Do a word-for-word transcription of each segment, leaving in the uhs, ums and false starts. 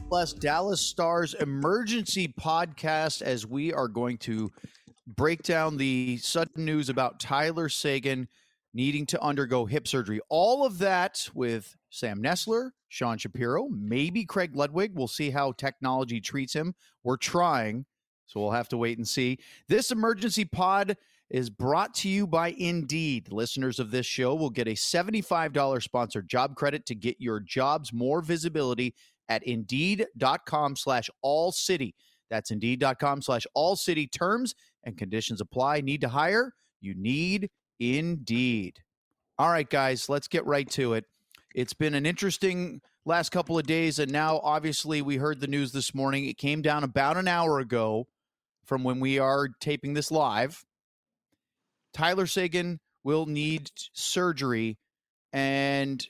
Plus Dallas Stars emergency podcast as we are going to break down the sudden news about Tyler Seguin needing to undergo hip surgery. All of that with Sam Nestler, Sean Shapiro, maybe Craig Ludwig. We'll see how technology treats him. We're trying, so we'll have to wait and see. This emergency pod is brought to you by Indeed. Listeners of this show will get a seventy-five dollars sponsored job credit to get your jobs more visibility at Indeed.com slash All City. That's Indeed.com slash All City. Terms and conditions apply. Need to hire? You need Indeed. All right, guys, let's get right to it. It's been an interesting last couple of days, and now obviously we heard the news this morning. It came down about an hour ago from when we are taping this live. Tyler Seguin will need surgery, and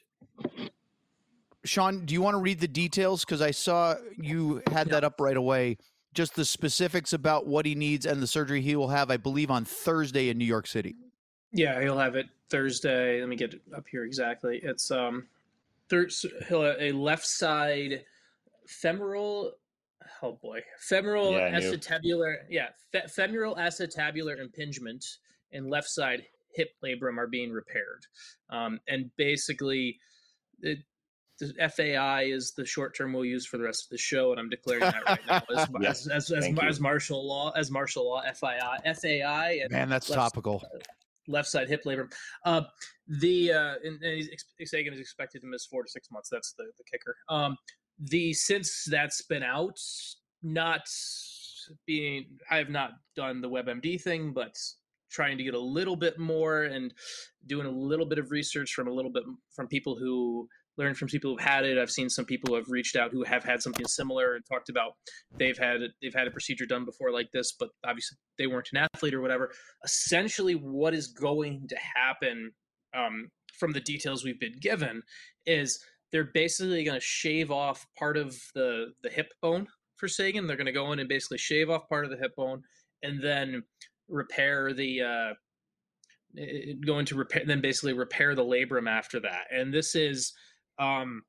Sean, do you want to read the details? Because I saw you had that up right away. Just the specifics about what he needs and the surgery he will have, I believe, on Thursday in New York City. Yeah, he'll have it Thursday. Let me get it up here exactly. It's um, thir- he'll have a left side femoral. Oh boy, femoral yeah, acetabular. Yeah, fe- femoral acetabular impingement and left side hip labrum are being repaired, um, and basically, it, the F A I is the short term we'll use for the rest of the show, and I'm declaring that right now as yes, as as, as, as martial law, as martial law, F I I, F A I. And Man, that's left, topical. Left side hip labrum. Uh, the uh, and, and he's Seguin is expected to miss four to six months. That's the the kicker. Um, the since that's been out, not being I have not done the WebMD thing, but trying to get a little bit more and doing a little bit of research from a little bit from people who learn from people who've had it. I've seen some people who have reached out who have had something similar and talked about they've had they've had a procedure done before like this, but obviously they weren't an athlete or whatever. Essentially, what is going to happen um, from the details we've been given is they're basically going to shave off part of the the hip bone for Seguin. They're going to go in and basically shave off part of the hip bone and then repair the uh, going to repair then basically repair the labrum after that. And this is um,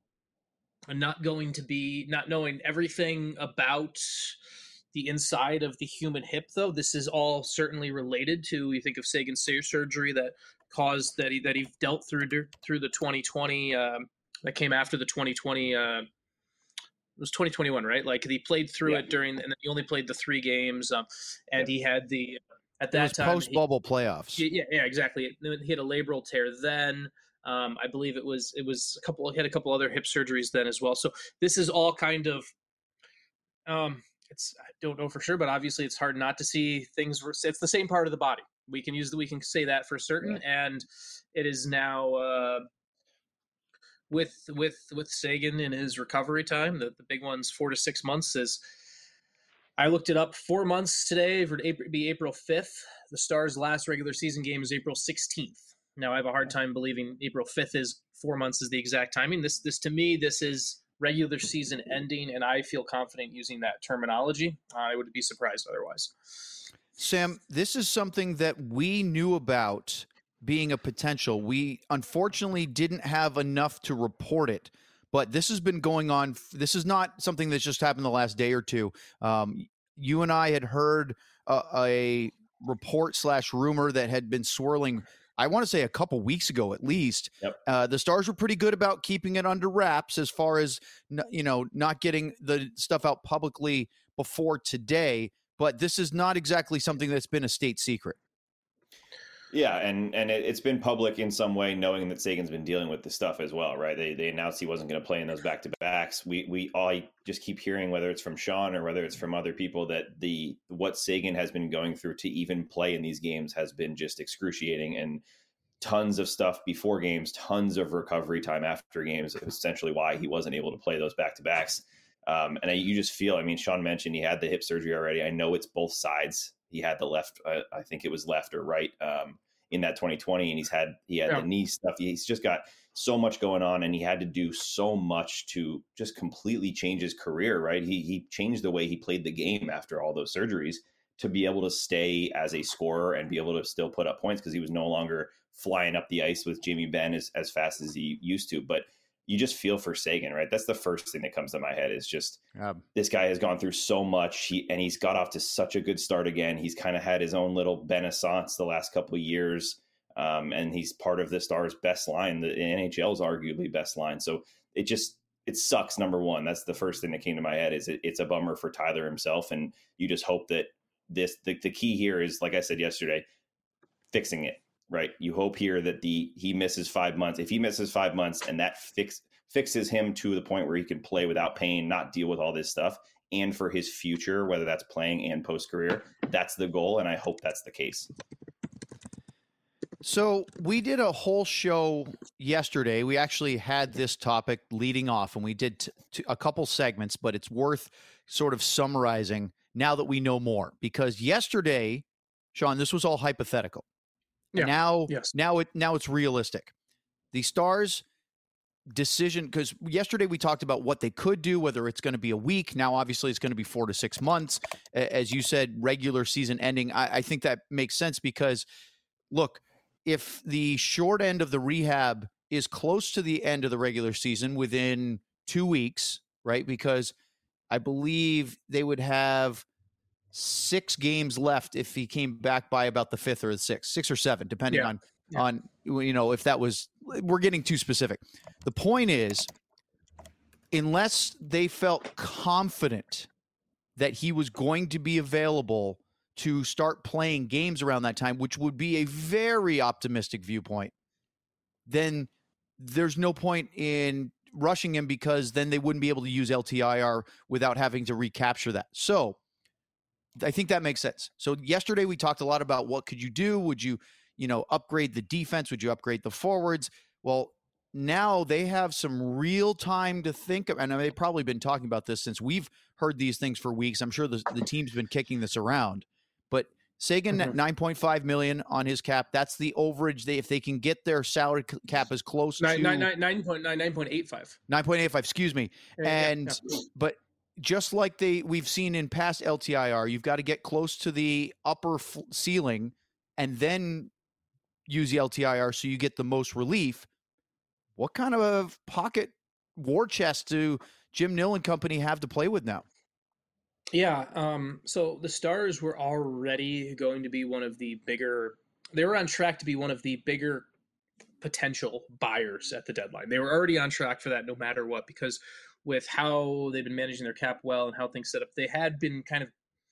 not going to be not knowing everything about the inside of the human hip, though. This is all certainly related to, you think of Seguin's surgery that caused that he that he dealt through through the twenty twenty um, that came after the twenty twenty. Uh, it was twenty twenty-one, right? Like he played through yeah. it during, and he only played the three games, um, and yeah. he had the at that time post bubble playoffs. He, yeah, yeah, exactly. He had a labral tear then. Um, I believe it was it was a couple. He had a couple other hip surgeries then as well. So this is all kind of. Um, it's I don't know for sure, but obviously it's hard not to see things. It's the same part of the body. We can use the we can say that for certain, yeah. And it is now uh, with with with Seguin in his recovery time. The the big one's four to six months. Is I looked it up. Four months today would be April fifth. The Stars' last regular season game is April sixteenth. Now I have a hard time believing April fifth is four months is the exact timing. This this to me this is regular season ending, and I feel confident using that terminology. Uh, I would be surprised otherwise. Sam, this is something that we knew about being a potential. We unfortunately didn't have enough to report it, but this has been going on. This is not something that's just happened the last day or two. Um, you and I had heard a, a report slash rumor that had been swirling, I want to say a couple weeks ago at least. Yep. Uh, the Stars were pretty good about keeping it under wraps as far as, you know, not getting the stuff out publicly before today. But this is not exactly something that's been a state secret. Yeah, and and it, it's been public in some way, knowing that Seguin's been dealing with this stuff as well, right? They they announced he wasn't going to play in those back to backs. We we all just keep hearing, whether it's from Sean or whether it's from other people, that the what Seguin has been going through to even play in these games has been just excruciating, and tons of stuff before games, tons of recovery time after games. It was essentially why he wasn't able to play those back to backs. Um, and I, you just feel, I mean, Sean mentioned he had the hip surgery already. I know it's both sides. He had the left, uh, I think it was left or right um, in that twenty twenty, and he's had he had yeah. the knee stuff. He's just got so much going on, and he had to do so much to just completely change his career. Right? He he changed the way he played the game after all those surgeries to be able to stay as a scorer and be able to still put up points because he was no longer flying up the ice with Jamie Benn as, as fast as he used to. But you just feel for Seguin, right? That's the first thing that comes to my head is just Yeah. this guy has gone through so much, he, and he's got off to such a good start again. He's kind of had his own little renaissance the last couple of years, um, and he's part of the Stars' best line, the N H L's arguably best line. So it just it sucks. Number one, that's the first thing that came to my head. Is it, it's a bummer for Tyler himself, and you just hope that this the, the key here is, like I said yesterday, fixing it. Right. You hope here that the he misses five months. If he misses five months and that fix fixes him to the point where he can play without pain, not deal with all this stuff, and for his future, whether that's playing and post career, that's the goal. And I hope that's the case. So we did a whole show yesterday. We actually had this topic leading off, and we did t- t- a couple segments, but it's worth sort of summarizing now that we know more. Because yesterday, Sean, this was all hypothetical. Yeah. Now, Yes. now it now it's realistic. The Stars' decision, because yesterday we talked about what they could do, whether it's going to be a week. Now, obviously, it's going to be four to six months. A- As you said, regular season ending. I, I think that makes sense because, look, if the short end of the rehab is close to the end of the regular season within two weeks, right? Because I believe they would have six games left if he came back by about the fifth or the sixth, six or seven, depending Yeah. on, Yeah. on, you know, if that was, we're getting too specific. The point is, unless they felt confident that he was going to be available to start playing games around that time, which would be a very optimistic viewpoint, then there's no point in rushing him because then they wouldn't be able to use L T I R without having to recapture that. So I think that makes sense. So yesterday we talked a lot about what could you do? Would you, you know, upgrade the defense? Would you upgrade the forwards? Well, now they have some real time to think of, and they've probably been talking about this since we've heard these things for weeks. I'm sure the, the team's been kicking this around, but Seguin Mhm. at nine point five million on his cap. That's the overage. They, if they can get their salary c- cap as close Nine, to nine, nine, nine point nine, nine point eight five. nine point eight five, excuse me. Yeah, yeah, And, yeah. but just like they, we've seen in past L T I R, you've got to get close to the upper f- ceiling and then use the L T I R so you get the most relief. What kind of pocket war chest do Jim Nill and company have to play with now? Yeah. Um, so the Stars were already going to be one of the bigger, they were on track to be one of the bigger potential buyers at the deadline. They were already on track for that no matter what, because with how they've been managing their cap well and how things set up, they had been kind of,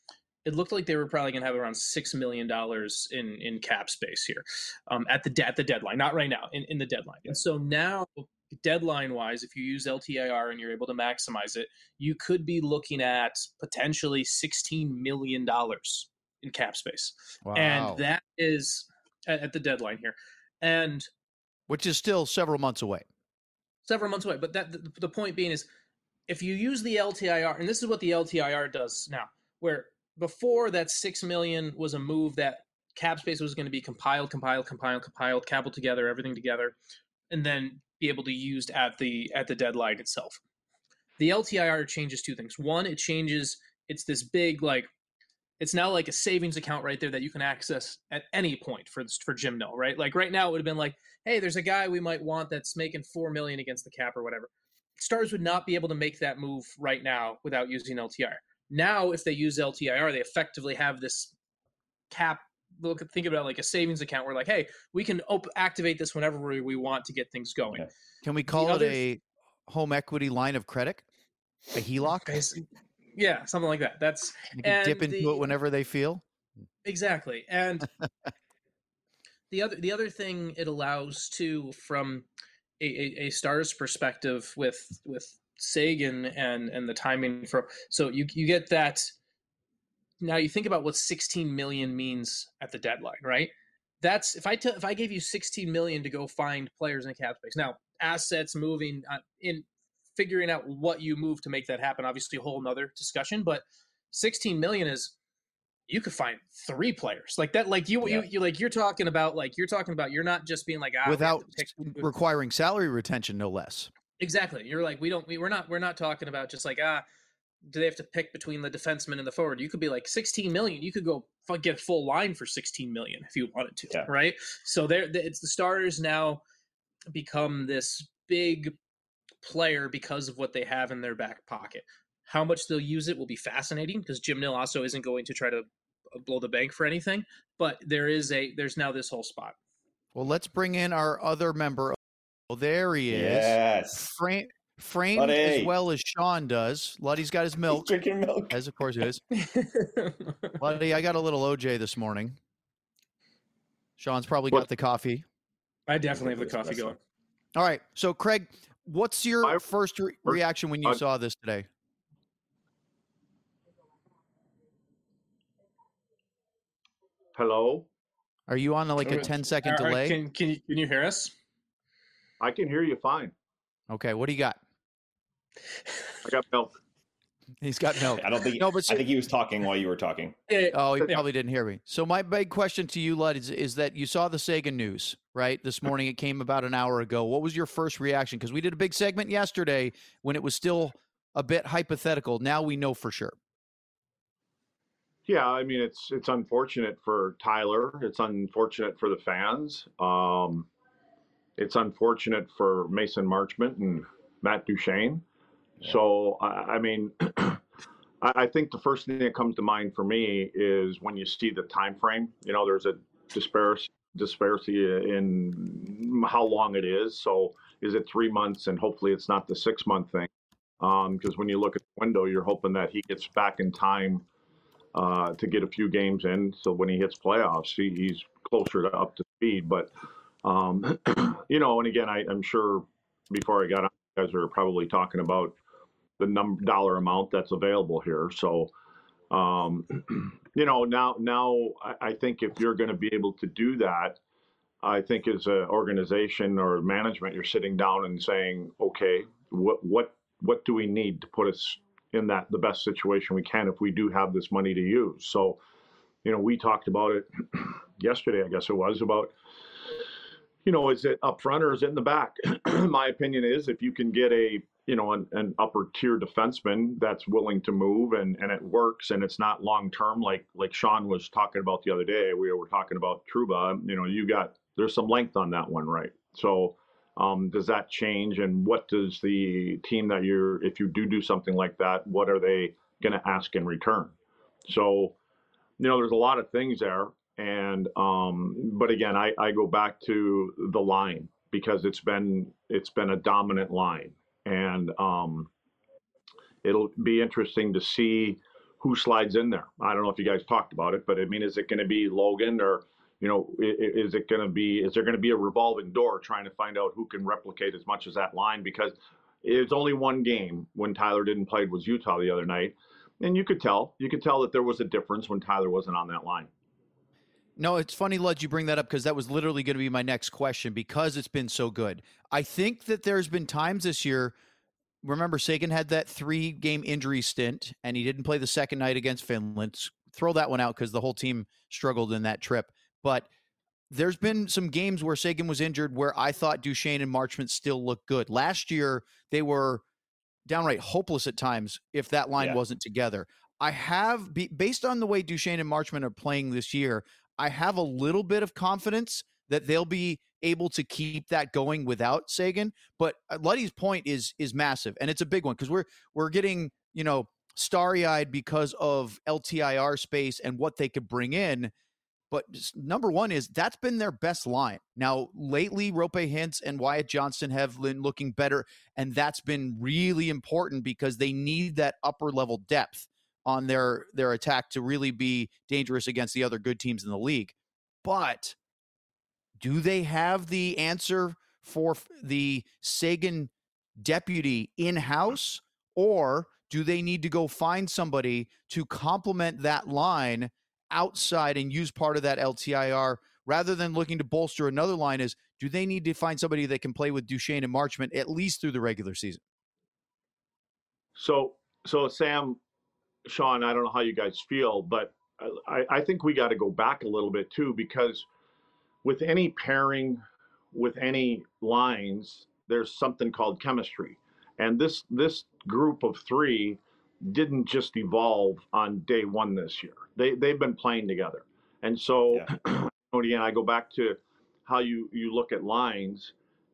it looked like they were probably going to have around six million dollars in, in cap space here um, at the at the deadline, not right now, in, in the deadline. And so now, deadline-wise, if you use L T I R and you're able to maximize it, you could be looking at potentially sixteen million dollars in cap space. Wow. And that is at, at the deadline here. And which is still several months away. several months away. But that the, the point being is, if you use the L T I R, and this is what the L T I R does now, where before that six million was a move that cap space was going to be compiled, compiled, compiled, compiled, cobbled together, everything together, and then be able to be used at the at the deadline itself. The L T I R changes two things. One, it changes, it's this big, like, it's now like a savings account right there that you can access at any point for for Jim Nill, right? Like right now it would have been like, hey, there's a guy we might want that's making four million against the cap or whatever. Stars would not be able to make that move right now without using L T I R. Now, if they use L T I R, they effectively have this cap. Look, think about it like a savings account where, like, hey, we can op- activate this whenever we, we want to get things going. Okay. Can we call The it other- a home equity line of credit? A H E L O C? Basi- Yeah, something like that. That's You can and dip into the- it whenever they feel. exactly. And the other the other thing it allows too, from a, a, a Stars perspective with with Seguin and and the timing for, so you you get that. Now you think about what sixteen million means at the deadline, right? That's if I t- if I gave you sixteen million to go find players in cap space. Now assets moving uh, in figuring out what you move to make that happen, obviously a whole nother discussion, but sixteen million is, you could find three players like that. Like you, Yeah. you, you, like you're talking about, like you're talking about, you're not just being like, ah, we have Without to pick- requiring salary retention, no less. exactly. You're like, we don't, we, we're not, we're not talking about just like, ah, do they have to pick between the defenseman and the forward? You could be like sixteen million. You could go f- get a full line for sixteen million if you wanted to, Yeah. right? So there, it's the Stars now become this big player because of what they have in their back pocket. How much they'll use it will be fascinating because Jim Nill also isn't going to try to blow the bank for anything. But there is a there's now this whole spot. Well, let's bring in our other member. Oh, there he is. Yes. Frame, framed Luddy. as well as Sean does. Luddy's got his milk. He's drinking milk. As of course it is. Luddy, I got a little O J this morning. Sean's probably What? got the coffee. I definitely have the coffee going. All right. So, Craig, what's your My first re- reaction when you uh, saw this today? Hello? Are you on like a Okay. ten second All right, delay? Can, can, you, can you hear us? I can hear you fine. Okay. What do you got? I got milk. He's got milk. I don't think. No, but I think he was talking while you were talking. Yeah, Oh, he Yeah. probably didn't hear me. So my big question to you, Lud, is, is that you saw the Sagan news, right? This morning, it came about an hour ago. What was your first reaction? Because we did a big segment yesterday when it was still a bit hypothetical. Now we know for sure. Yeah, I mean it's it's unfortunate for Tyler. It's unfortunate for the fans. Um, it's unfortunate for Mason Marchment and Matt Duchene. Yeah. So I, I mean, I, I think the first thing that comes to mind for me is when you see the time frame. You know, there's a disparity disparity in how long it is. So is it three months? And hopefully it's not the six month thing. Because um, when you look at the window, you're hoping that he gets back in time uh, to get a few games in. So when he hits playoffs, he, he's closer to up to speed. But, um, you know, and again, I, I'm sure before I got on, you guys are probably talking about the number dollar amount that's available here. So, um, you know, now, now I, I think if you're going to be able to do that, I think as an organization or management, you're sitting down and saying, okay, what, what, what do we need to put us in that the best situation we can if we do have this money to use? So, you know, we talked about it yesterday, I guess it was, about, you know, is it up front or is it in the back? My opinion is if you can get a, you know, an, an upper tier defenseman that's willing to move and, and it works and it's not long term, like like Sean was talking about the other day. We were talking about Trouba. You know, you got there's some length on that one, right? So um, does that change? And what does the team that you're, if you do do something like that, what are they going to ask in return? So, you know, there's a lot of things there. And, um, but again, I, I go back to the line because it's been, it's been a dominant line. And um, it'll be interesting to see who slides in there. I don't know if you guys talked about it, but I mean, is it going to be Logan or, you know, is it going to be, is there going to be a revolving door trying to find out who can replicate as much as that line? Because it's only one game when Tyler didn't play, was Utah the other night. And you could tell, you could tell that there was a difference when Tyler wasn't on that line. No, it's funny, Lud, you bring that up because that was literally going to be my next question because it's been so good. I think that there's been times this year, remember Sagan had that three-game injury stint, and he didn't play the second night against Finland. Throw that one out because the whole team struggled in that trip. But there's been some games where Sagan was injured where I thought Duchene and Marchment still looked good. Last year, they were downright hopeless at times if that line Yeah. wasn't together. I have, based on the way Duchene and Marchment are playing this year, I have a little bit of confidence that they'll be able to keep that going without Sagan. But Luddy's point is is massive, and it's a big one because we're we're getting, you know, starry-eyed because of L T I R space and what they could bring in. But number one is that's been their best line. Now, lately, Rope Hintz and Wyatt Johnston have been looking better, and that's been really important because they need that upper-level depth on their, their attack to really be dangerous against the other good teams in the league. But do they have the answer for the Sagan deputy in-house, or do they need to go find somebody to complement that line outside and use part of that L T I R rather than looking to bolster another line? Is do they need to find somebody that can play with Duchene and Marchment at least through the regular season? So, so Sam, Sean, I don't know how you guys feel, but I, I think we got to go back a little bit too, because with any pairing, with any lines, there's something called chemistry. And this, this group of three didn't just evolve on day one this year. They, they've been playing together. And so, yeah. Again, I go back to how you, you look at lines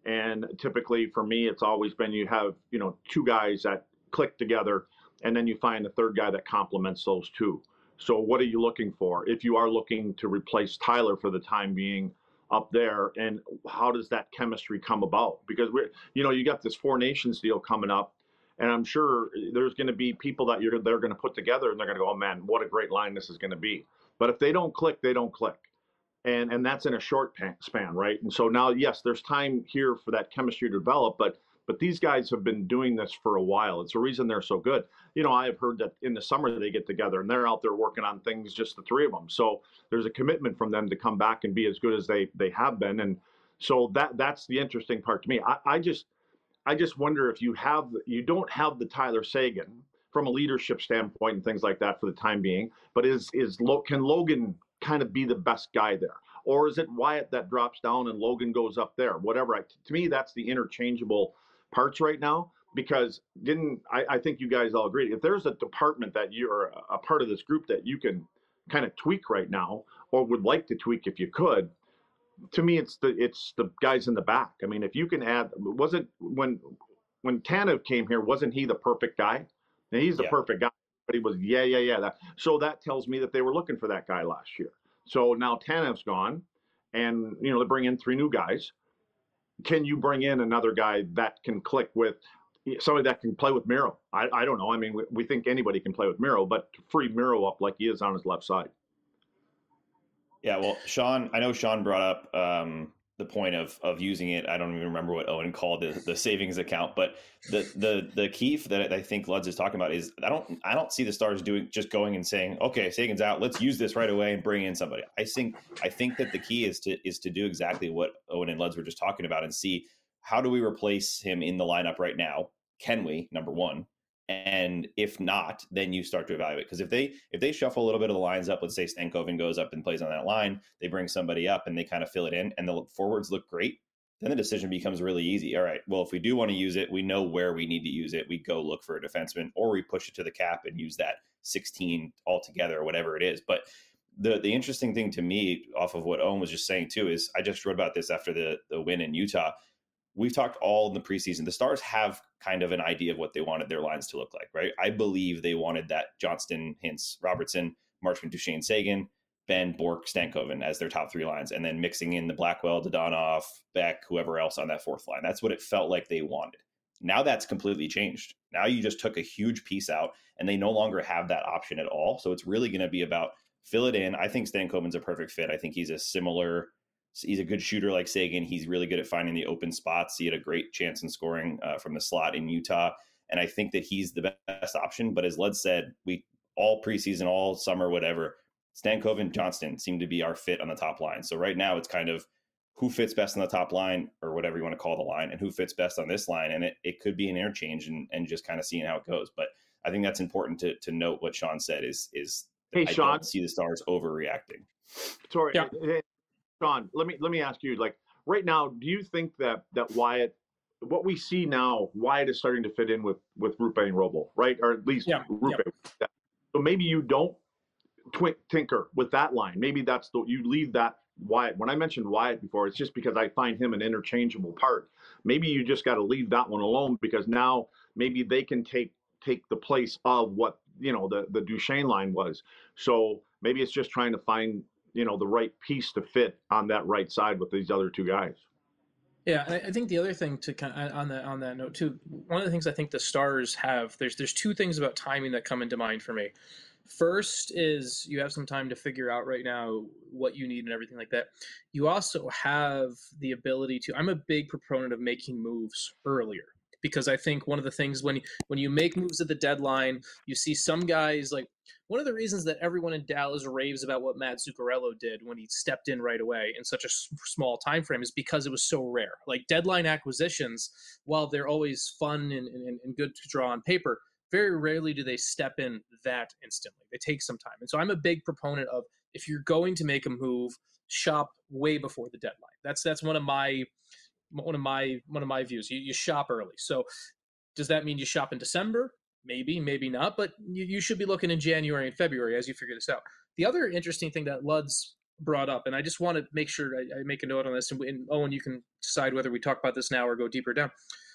And typically for me, it's always been you have, you know, two guys that click together, and then you find a third guy that complements those two. So what are you looking for? If you are looking to replace Tyler for the time being up there, and how does that chemistry come about? Because we're, you know, you got this Four Nations deal coming up, and I'm sure there's going to be people that you're they're going to put together, and they're going to go, oh man, what a great line this is going to be. But if they don't click, they don't click. And and that's in a short span, right? And so now, yes, there's time here for that chemistry to develop, but but these guys have been doing this for a while. It's the reason they're so good. You know, I've heard that in the summer they get together and they're out there working on things, just the three of them. So there's a commitment from them to come back and be as good as they they have been. And so that that's the interesting part to me. I, I just I just wonder if you have you don't have the Tyler Seguin from a leadership standpoint and things like that for the time being, but is is can Logan kind of be the best guy there? Or is it Wyatt that drops down and Logan goes up there? Whatever. I, to me, that's the interchangeable parts right now, because didn't I, I think you guys all agree, if there's a department that you're a part of this group that you can kind of tweak right now, or would like to tweak if you could, to me, it's the it's the guys in the back. I mean, if you can add, wasn't when when Tanev came here, wasn't he the perfect guy? And he's the yeah. perfect guy, but he was, yeah, yeah, yeah. That, so that tells me that they were looking for that guy last year. So now Tanev's gone, and, you know, they bring in three new guys. Can you bring in another guy that can click with somebody that can play with Miro? I, I don't know. I mean, we, we think anybody can play with Miro, but to free Miro up like he is on his left side. Yeah, well, Sean, I know Sean brought up um, the point of of using it. I don't even remember what Owen called the, the savings account, but the the the key that I think Luds is talking about is I don't I don't see the Stars doing just going and saying, okay, Seguin's out, let's use this right away and bring in somebody. I think I think that the key is to is to do exactly what Owen and Luds were just talking about and see, how do we replace him in the lineup right now? Can we? Number one. And if not, then you start to evaluate. Because if they if they shuffle a little bit of the lines up, let's say Stankoven goes up and plays on that line, they bring somebody up and they kind of fill it in, and the forwards look great, then the decision becomes really easy. All right, well, if we do want to use it, we know where we need to use it. We go look for a defenseman, or we push it to the cap and use that sixteen altogether, or whatever it is. But the the interesting thing to me, off of what Owen was just saying too, is I just wrote about this after the the win in Utah. We've talked all in the preseason. The Stars have kind of an idea of what they wanted their lines to look like, right? I believe they wanted that Johnston, Hintz, Robertson, Marchment, Duchesne, Seguin, Ben, Bork, Stankoven as their top three lines, and then mixing in the Blackwell, Dadonov, Beck, whoever else on that fourth line. That's what it felt like they wanted. Now that's completely changed. Now you just took a huge piece out, and they no longer have that option at all. So it's really going to be about fill it in. I think Stankoven's a perfect fit. I think he's a similar... He's a good shooter like Seguin. He's really good at finding the open spots. He had a great chance in scoring uh, from the slot in Utah. And I think that he's the best option. But as Lud said, we all preseason, all summer, whatever, Stankoven, Johnston seem to be our fit on the top line. So right now it's kind of who fits best on the top line, or whatever you want to call the line, and who fits best on this line. And it, it could be an interchange, and, and just kind of seeing how it goes. But I think that's important to to note what Sean said is, is hey, I Sean. don't see the Stars overreacting. Sorry. Yeah. Sean, let me let me ask you, like, right now, do you think that that Wyatt, what we see now, Wyatt is starting to fit in with with Rupe and Robo, right? Or at least yeah. Rupe. Yeah. So maybe you don't twi- tinker with that line. Maybe that's the you leave that Wyatt. When I mentioned Wyatt before, it's just because I find him an interchangeable part. Maybe you just got to leave that one alone, because now maybe they can take take the place of what, you know, the the Duchesne line was. So maybe it's just trying to find, you know, the right piece to fit on that right side with these other two guys. Yeah, I think the other thing to kind of, on that on that note too, one of the things I think the Stars have, there's there's two things about timing that come into mind for me. First is you have some time to figure out right now what you need and everything like that. You also have the ability to, I'm a big proponent of making moves earlier, because I think one of the things when when you make moves at the deadline, you see some guys, like one of the reasons that everyone in Dallas raves about what Matt Zuccarello did when he stepped in right away in such a small time frame is because it was so rare. Like deadline acquisitions, while they're always fun and, and, and good to draw on paper, very rarely do they step in that instantly. They take some time. And so I'm a big proponent of, if you're going to make a move, shop way before the deadline. That's that's one of my one of my one of my views. You, you shop early. So does that mean you shop in December? Maybe, maybe not, but you, you should be looking in January and February as you figure this out. The other interesting thing that Luds brought up, and I just want to make sure I, I make a note on this. And, and Owen, you can decide whether we talk about this now or go deeper down.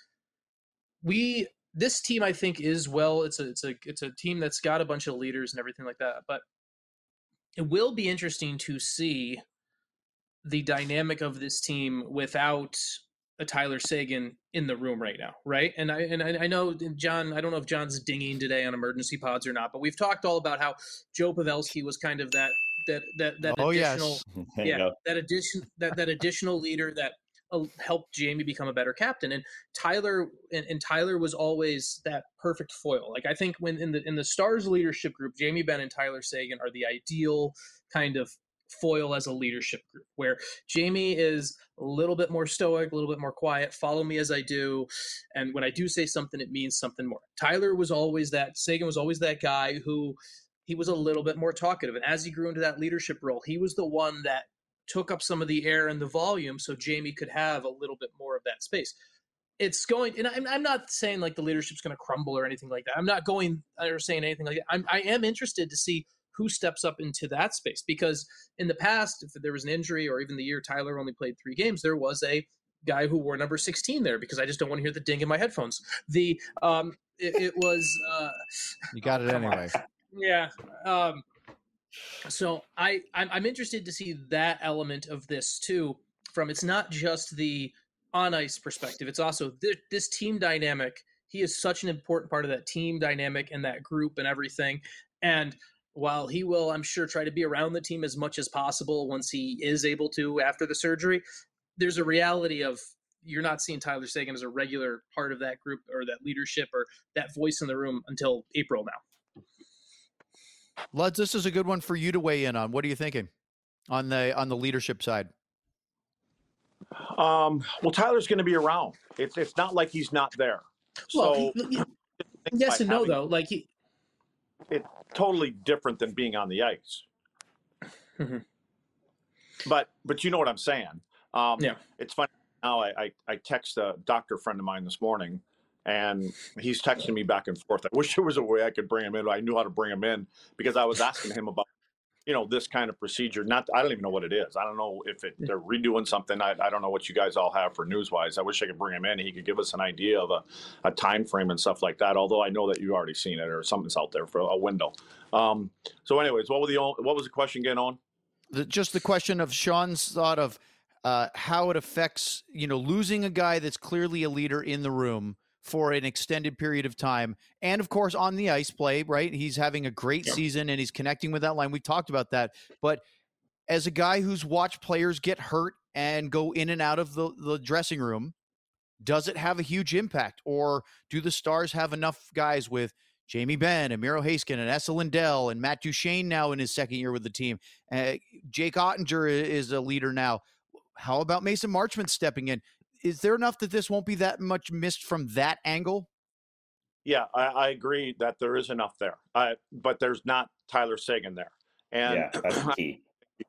We this team, I think, is well. It's a it's a it's a team that's got a bunch of leaders and everything like that. But it will be interesting to see the dynamic of this team without a Tyler Seguin in the room right now, right? And I and I, I know John. I don't know if John's dinging today on emergency pods or not, but we've talked all about how Joe Pavelski was kind of that that that that oh, additional, yes. yeah, go. that addition that that additional leader that uh, helped Jamie become a better captain. And Tyler and, and Tyler was always that perfect foil. Like I think when in the in the Stars leadership group, Jamie Benn and Tyler Seguin are the ideal kind of foil as a leadership group, where Jamie is a little bit more stoic, a little bit more quiet, follow me as I do, and when I do say something, it means something more. Tyler was always that, Seguin was always that guy who he was a little bit more talkative, and as he grew into that leadership role, he was the one that took up some of the air and the volume so Jamie could have a little bit more of that space. It's going, and I'm, I'm not saying like the leadership's going to crumble or anything like that. I'm not going or saying anything like that. I'm, I am interested to see who steps up into that space, because in the past, if there was an injury or even the year Tyler only played three games, there was a guy who wore number sixteen there, because I just don't want to hear the ding in my headphones. The um, it, it was uh, you got it anyway. On. Yeah. Um, so I I'm, I'm interested to see that element of this too. From it's not just the on ice perspective; it's also th- this team dynamic. He is such an important part of that team dynamic and that group and everything, and while he will, I'm sure, try to be around the team as much as possible once he is able to after the surgery, there's a reality of you're not seeing Tyler Seguin as a regular part of that group or that leadership or that voice in the room until April now. Luds, this is a good one for you to weigh in on. What are you thinking on the on the leadership side? Um, well, Tyler's going to be around. It's it's not like he's not there. Well, So he, he, yes and no, though. Like he, it's totally different than being on the ice. Mm-hmm. But but you know what I'm saying. Um, yeah. It's funny now. I, I I text a doctor friend of mine this morning, and he's texting me back and forth. I wish there was a way I could bring him in. I knew how to bring him in, because I was asking him about, you know, this kind of procedure. Not, I don't even know what it is. I don't know if it, they're redoing something. I, I don't know what you guys all have for Newswise. I wish I could bring him in. He could give us an idea of a, a time frame and stuff like that. Although I know that you've already seen it, or something's out there for a window. Um, so anyways, what was the, what was the question again on? The, just the question of Sean's thought of uh, how it affects, you know, losing a guy that's clearly a leader in the room for an extended period of time. And of course, on the ice play, right? He's having a great yeah. season and he's connecting with that line. We talked about that. But as a guy who's watched players get hurt and go in and out of the, the dressing room, does it have a huge impact? Or do the Stars have enough guys with Jamie Benn and Miro Heiskanen and Esa Lindell and Matt Duchene now in his second year with the team? Uh, Jake Ottinger is a leader now. How about Mason Marchment stepping in? Is there enough that this won't be that much missed from that angle? Yeah, I, I agree that there is enough there, uh, but there's not Tyler Seguin there. And yeah, that's key.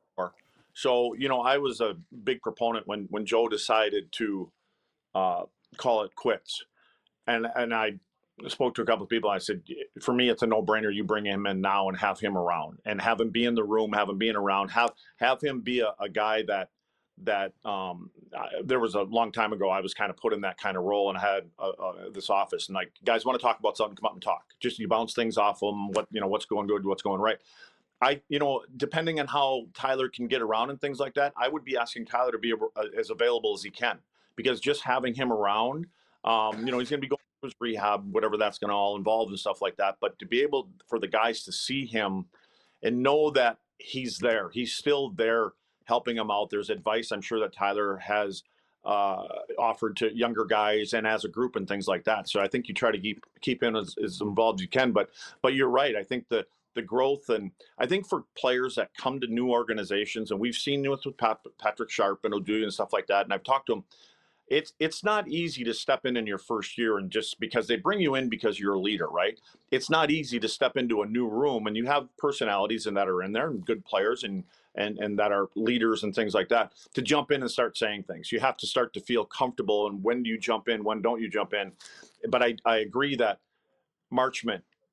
So, you know, I was a big proponent when, when Joe decided to uh, call it quits. And and I spoke to a couple of people. I said, for me, it's a no-brainer. You bring him in now and have him around, and have him be in the room, have him being around, have have him be a, a guy that that um, I, there was a long time ago, I was kind of put in that kind of role, and I had uh, uh, this office, and like, guys want to talk about something, come up and talk. Just you bounce things off them. What, you know, what's going good, what's going right. I, you know, depending on how Tyler can get around and things like that, I would be asking Tyler to be uh, as available as he can, because just having him around, um, you know, he's going to be going through his rehab, whatever that's going to all involve and stuff like that. But to be able for the guys to see him and know that he's there, he's still there, helping them out. There's advice I'm sure that Tyler has uh, offered to younger guys and as a group and things like that. So I think you try to keep keep him as, as involved as you can. But but you're right. I think the the growth, and I think for players that come to new organizations, and we've seen this with Pat, Patrick Sharp and O'Doyle and stuff like that, and I've talked to them, it's it's not easy to step in in your first year, and just because they bring you in because you're a leader, right? It's not easy to step into a new room, and you have personalities and that are in there and good players and and and that are leaders and things like that, to jump in and start saying things. You have to start to feel comfortable, and when do you jump in, when don't you jump in? But I, I agree that Marchment,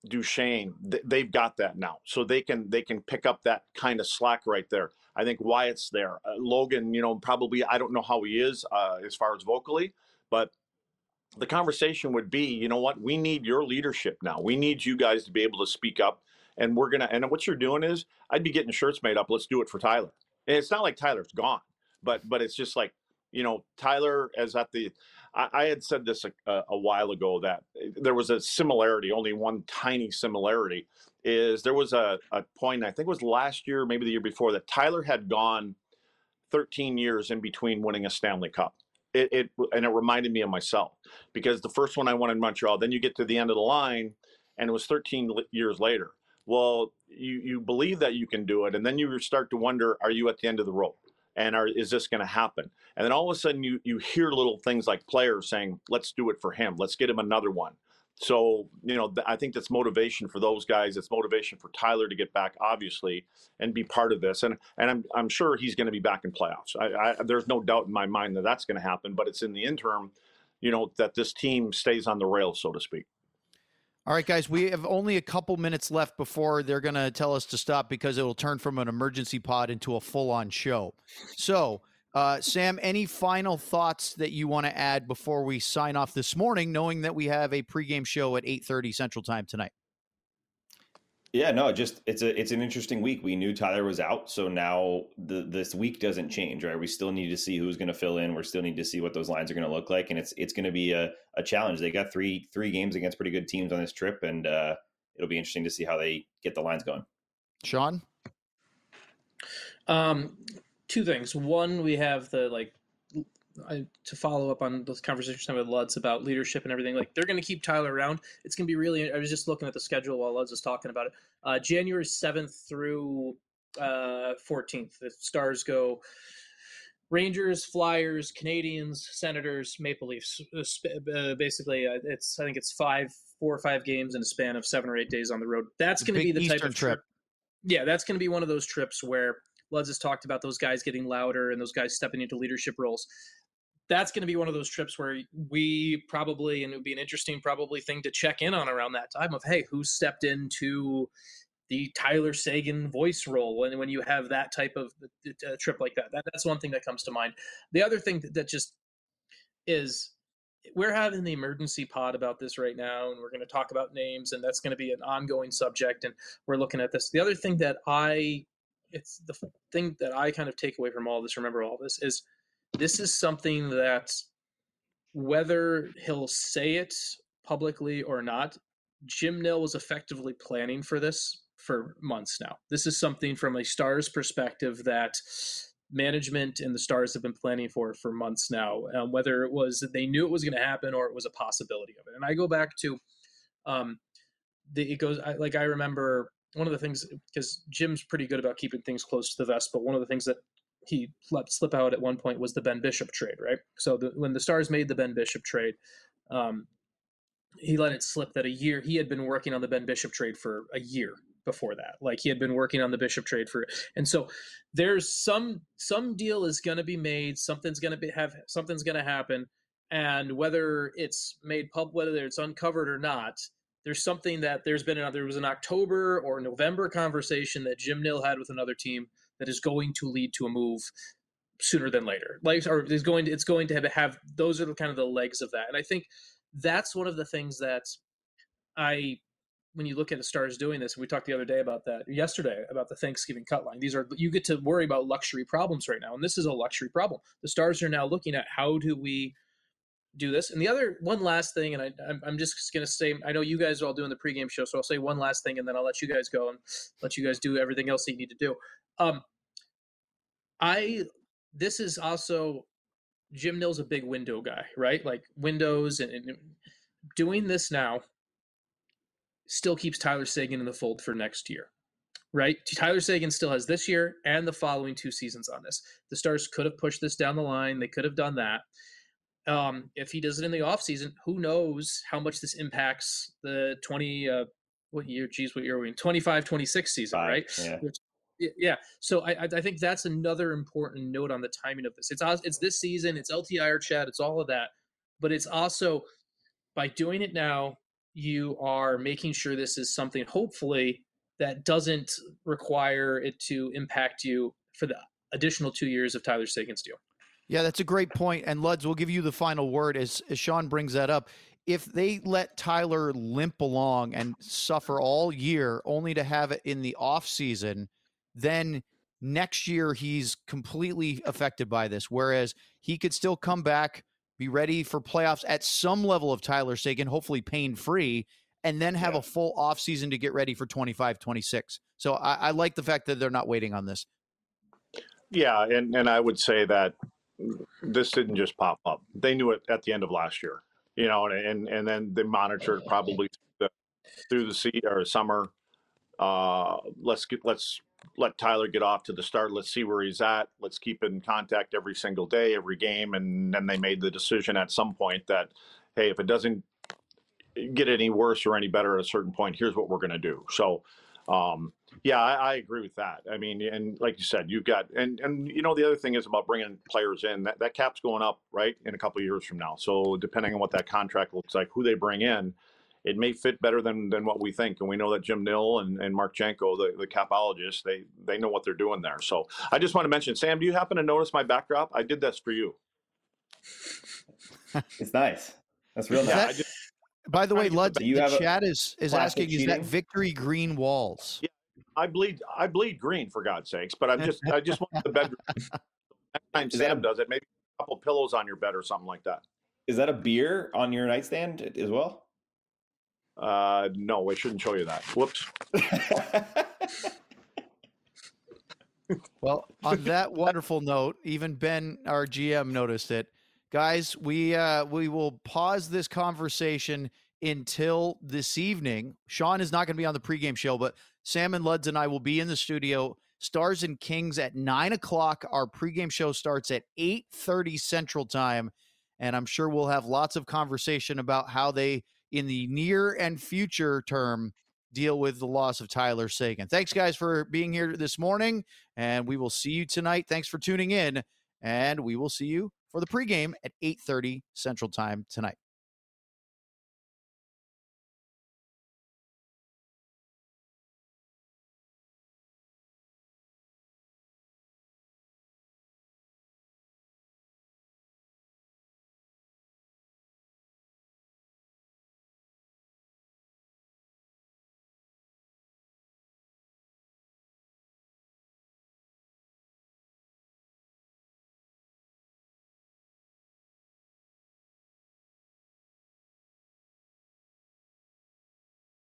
Duchesne, th- they've got that now, so they can they can pick up that kind of slack right there. I think Wyatt's there. Uh, Logan, you know, probably I don't know how he is uh, as far as vocally, but the conversation would be, you know what, we need your leadership now. We need you guys to be able to speak up, and we're gonna. And what you're doing is, I'd be getting shirts made up. Let's do it for Tyler. And it's not like Tyler's gone, but but it's just like, you know, Tyler as at the. I, I had said this a, a while ago that there was a similarity, only one tiny similarity, is there was a, a point, I think it was last year, maybe the year before, that Tyler had gone thirteen years in between winning a Stanley Cup. It, it and it reminded me of myself, because the first one I won in Montreal, then you get to the end of the line, and it was thirteen years later. Well, you you believe that you can do it, and then you start to wonder, are you at the end of the road? And are, is this going to happen? And then all of a sudden you you hear little things like players saying, let's do it for him. Let's get him another one. So, you know, th- I think that's motivation for those guys. It's motivation for Tyler to get back, obviously, and be part of this. And and I'm I'm sure he's going to be back in playoffs. I, I, there's no doubt in my mind that that's going to happen. But it's in the interim, you know, that this team stays on the rails, so to speak. All right, guys, we have only a couple minutes left before they're going to tell us to stop, because it will turn from an emergency pod into a full-on show. So, uh, Sam, any final thoughts that you want to add before we sign off this morning, knowing that we have a pregame show at eight thirty Central Time tonight? Yeah, no, just it's a it's an interesting week. We knew Tyler was out, so now the this week doesn't change, right? We still need to see who's going to fill in. We still need to see what those lines are going to look like, and it's it's going to be a, a challenge. They got three three games against pretty good teams on this trip, and uh, it'll be interesting to see how they get the lines going. Sean, um, two things. One, we have the like. I, to follow up on those conversations with Lutz about leadership and everything, like they're going to keep Tyler around. It's going to be really, I was just looking at the schedule while Lutz was talking about it. Uh, January seventh through uh, fourteenth, the Stars go Rangers, Flyers, Canadians, Senators, Maple Leafs. Uh, basically, uh, it's I think it's five, four or five games in a span of seven or eight days on the road. That's going to be the Eastern type of trip. trip. Yeah, that's going to be one of those trips where Lutz has talked about those guys getting louder and those guys stepping into leadership roles. That's going to be one of those trips where we probably, and it would be an interesting probably thing to check in on around that time of, hey, who stepped into the Tyler Seguin voice role when, when you have that type of uh, trip like that. that. That's one thing that comes to mind. The other thing that, that just is, we're having the emergency pod about this right now, and we're going to talk about names, and that's going to be an ongoing subject, and we're looking at this. The other thing that I, it's the thing that I kind of take away from all this, remember all this, is this is something that whether he'll say it publicly or not, Jim Nill was effectively planning for this for months now. This is something from a Stars perspective that management and the Stars have been planning for for months now, um, whether it was that they knew it was going to happen or it was a possibility of it. And I go back to, um, the, it goes I, like I remember one of the things, because Jim's pretty good about keeping things close to the vest, but one of the things that he let slip out at one point was the Ben Bishop trade, right? So the, when the Stars made the Ben Bishop trade, um, he let it slip that a year he had been working on the Ben Bishop trade for a year before that. Like he had been working on the Bishop trade for, and so there's some some deal is going to be made. Something's going to be have something's going to happen, and whether it's made public, whether it's uncovered or not, there's something that there's been a, there was an October or November conversation that Jim Nill had with another team that is going to lead to a move sooner than later. Like, or is going to, it's going to have, have those are the kind of the legs of that. And I think that's one of the things that I, when you look at the Stars doing this, we talked the other day about that yesterday about the Thanksgiving cut line. These are, you get to worry about luxury problems right now. And this is a luxury problem. The Stars are now looking at how do we do this. And the other one last thing, and I, I'm, I'm just going to say, I know you guys are all doing the pregame show, so I'll say one last thing and then I'll let you guys go and let you guys do everything else that you need to do. Um, I, this is also, Jim Nill's a big window guy, right? Like windows and, and doing this now still keeps Tyler Seguin in the fold for next year, right? Tyler Seguin still has this year and the following two seasons on this. The Stars could have pushed this down the line. They could have done that. Um, if he does it in the offseason, who knows how much this impacts the twenty, uh, what year, geez, what year are we in? twenty-five, twenty-six season, Five, right? Yeah. Which, yeah. So I, I think that's another important note on the timing of this. It's it's this season, it's L T I R chat, it's all of that, but it's also by doing it now, you are making sure this is something, hopefully, that doesn't require it to impact you for the additional two years of Tyler Seguin's deal. Yeah, that's a great point. And Luds, we'll give you the final word as, as Sean brings that up. If they let Tyler limp along and suffer all year only to have it in the off season, then next year he's completely affected by this. Whereas he could still come back, be ready for playoffs at some level of Tyler Seguin, hopefully pain free, and then have yeah. a full off season to get ready for twenty-five, twenty-six. So I, I like the fact that they're not waiting on this. Yeah. And, and I would say that this didn't just pop up. They knew it at the end of last year. You know, and and then they monitored probably through the, through the sea or summer. Uh, let's get let's let Tyler get off to the start. Let's see where he's at. Let's keep in contact every single day, every game. And then they made the decision at some point that, hey, if it doesn't get any worse or any better at a certain point, here's what we're going to do. So, um, yeah, I, I agree with that. I mean, and like you said, you've got, and, and you know, the other thing is about bringing players in, that, that cap's going up, right, in a couple of years from now. So depending on what that contract looks like, who they bring in, it may fit better than than what we think. And we know that Jim Nill and, and Mark Janko, the, the capologists, they, they know what they're doing there. So I just want to mention, Sam, do you happen to notice my backdrop? I did this for you. It's nice. That's real nice. That, I just, by the way, Lud, the chat is, is asking, cheating? Is that victory green walls? Yeah. I bleed. I bleed green, for God's sakes. But I'm just. I just want the bedroom. Next time Sam does it, maybe a couple pillows on your bed or something like that. Is that a beer on your nightstand as well? Uh, no, I shouldn't show you that. Whoops. Well, on that wonderful note, even Ben, our G M, noticed it. Guys, we uh, we will pause this conversation until this evening. Sean is not going to be on the pregame show, but Sam and Luds and I will be in the studio. Stars and Kings at nine o'clock. Our pregame show starts at eight thirty Central Time, and I'm sure we'll have lots of conversation about how they, in the near and future term, deal with the loss of Tyler Seguin. Thanks, guys, for being here this morning, and we will see you tonight. Thanks for tuning in, and we will see you for the pregame at eight thirty Central Time tonight.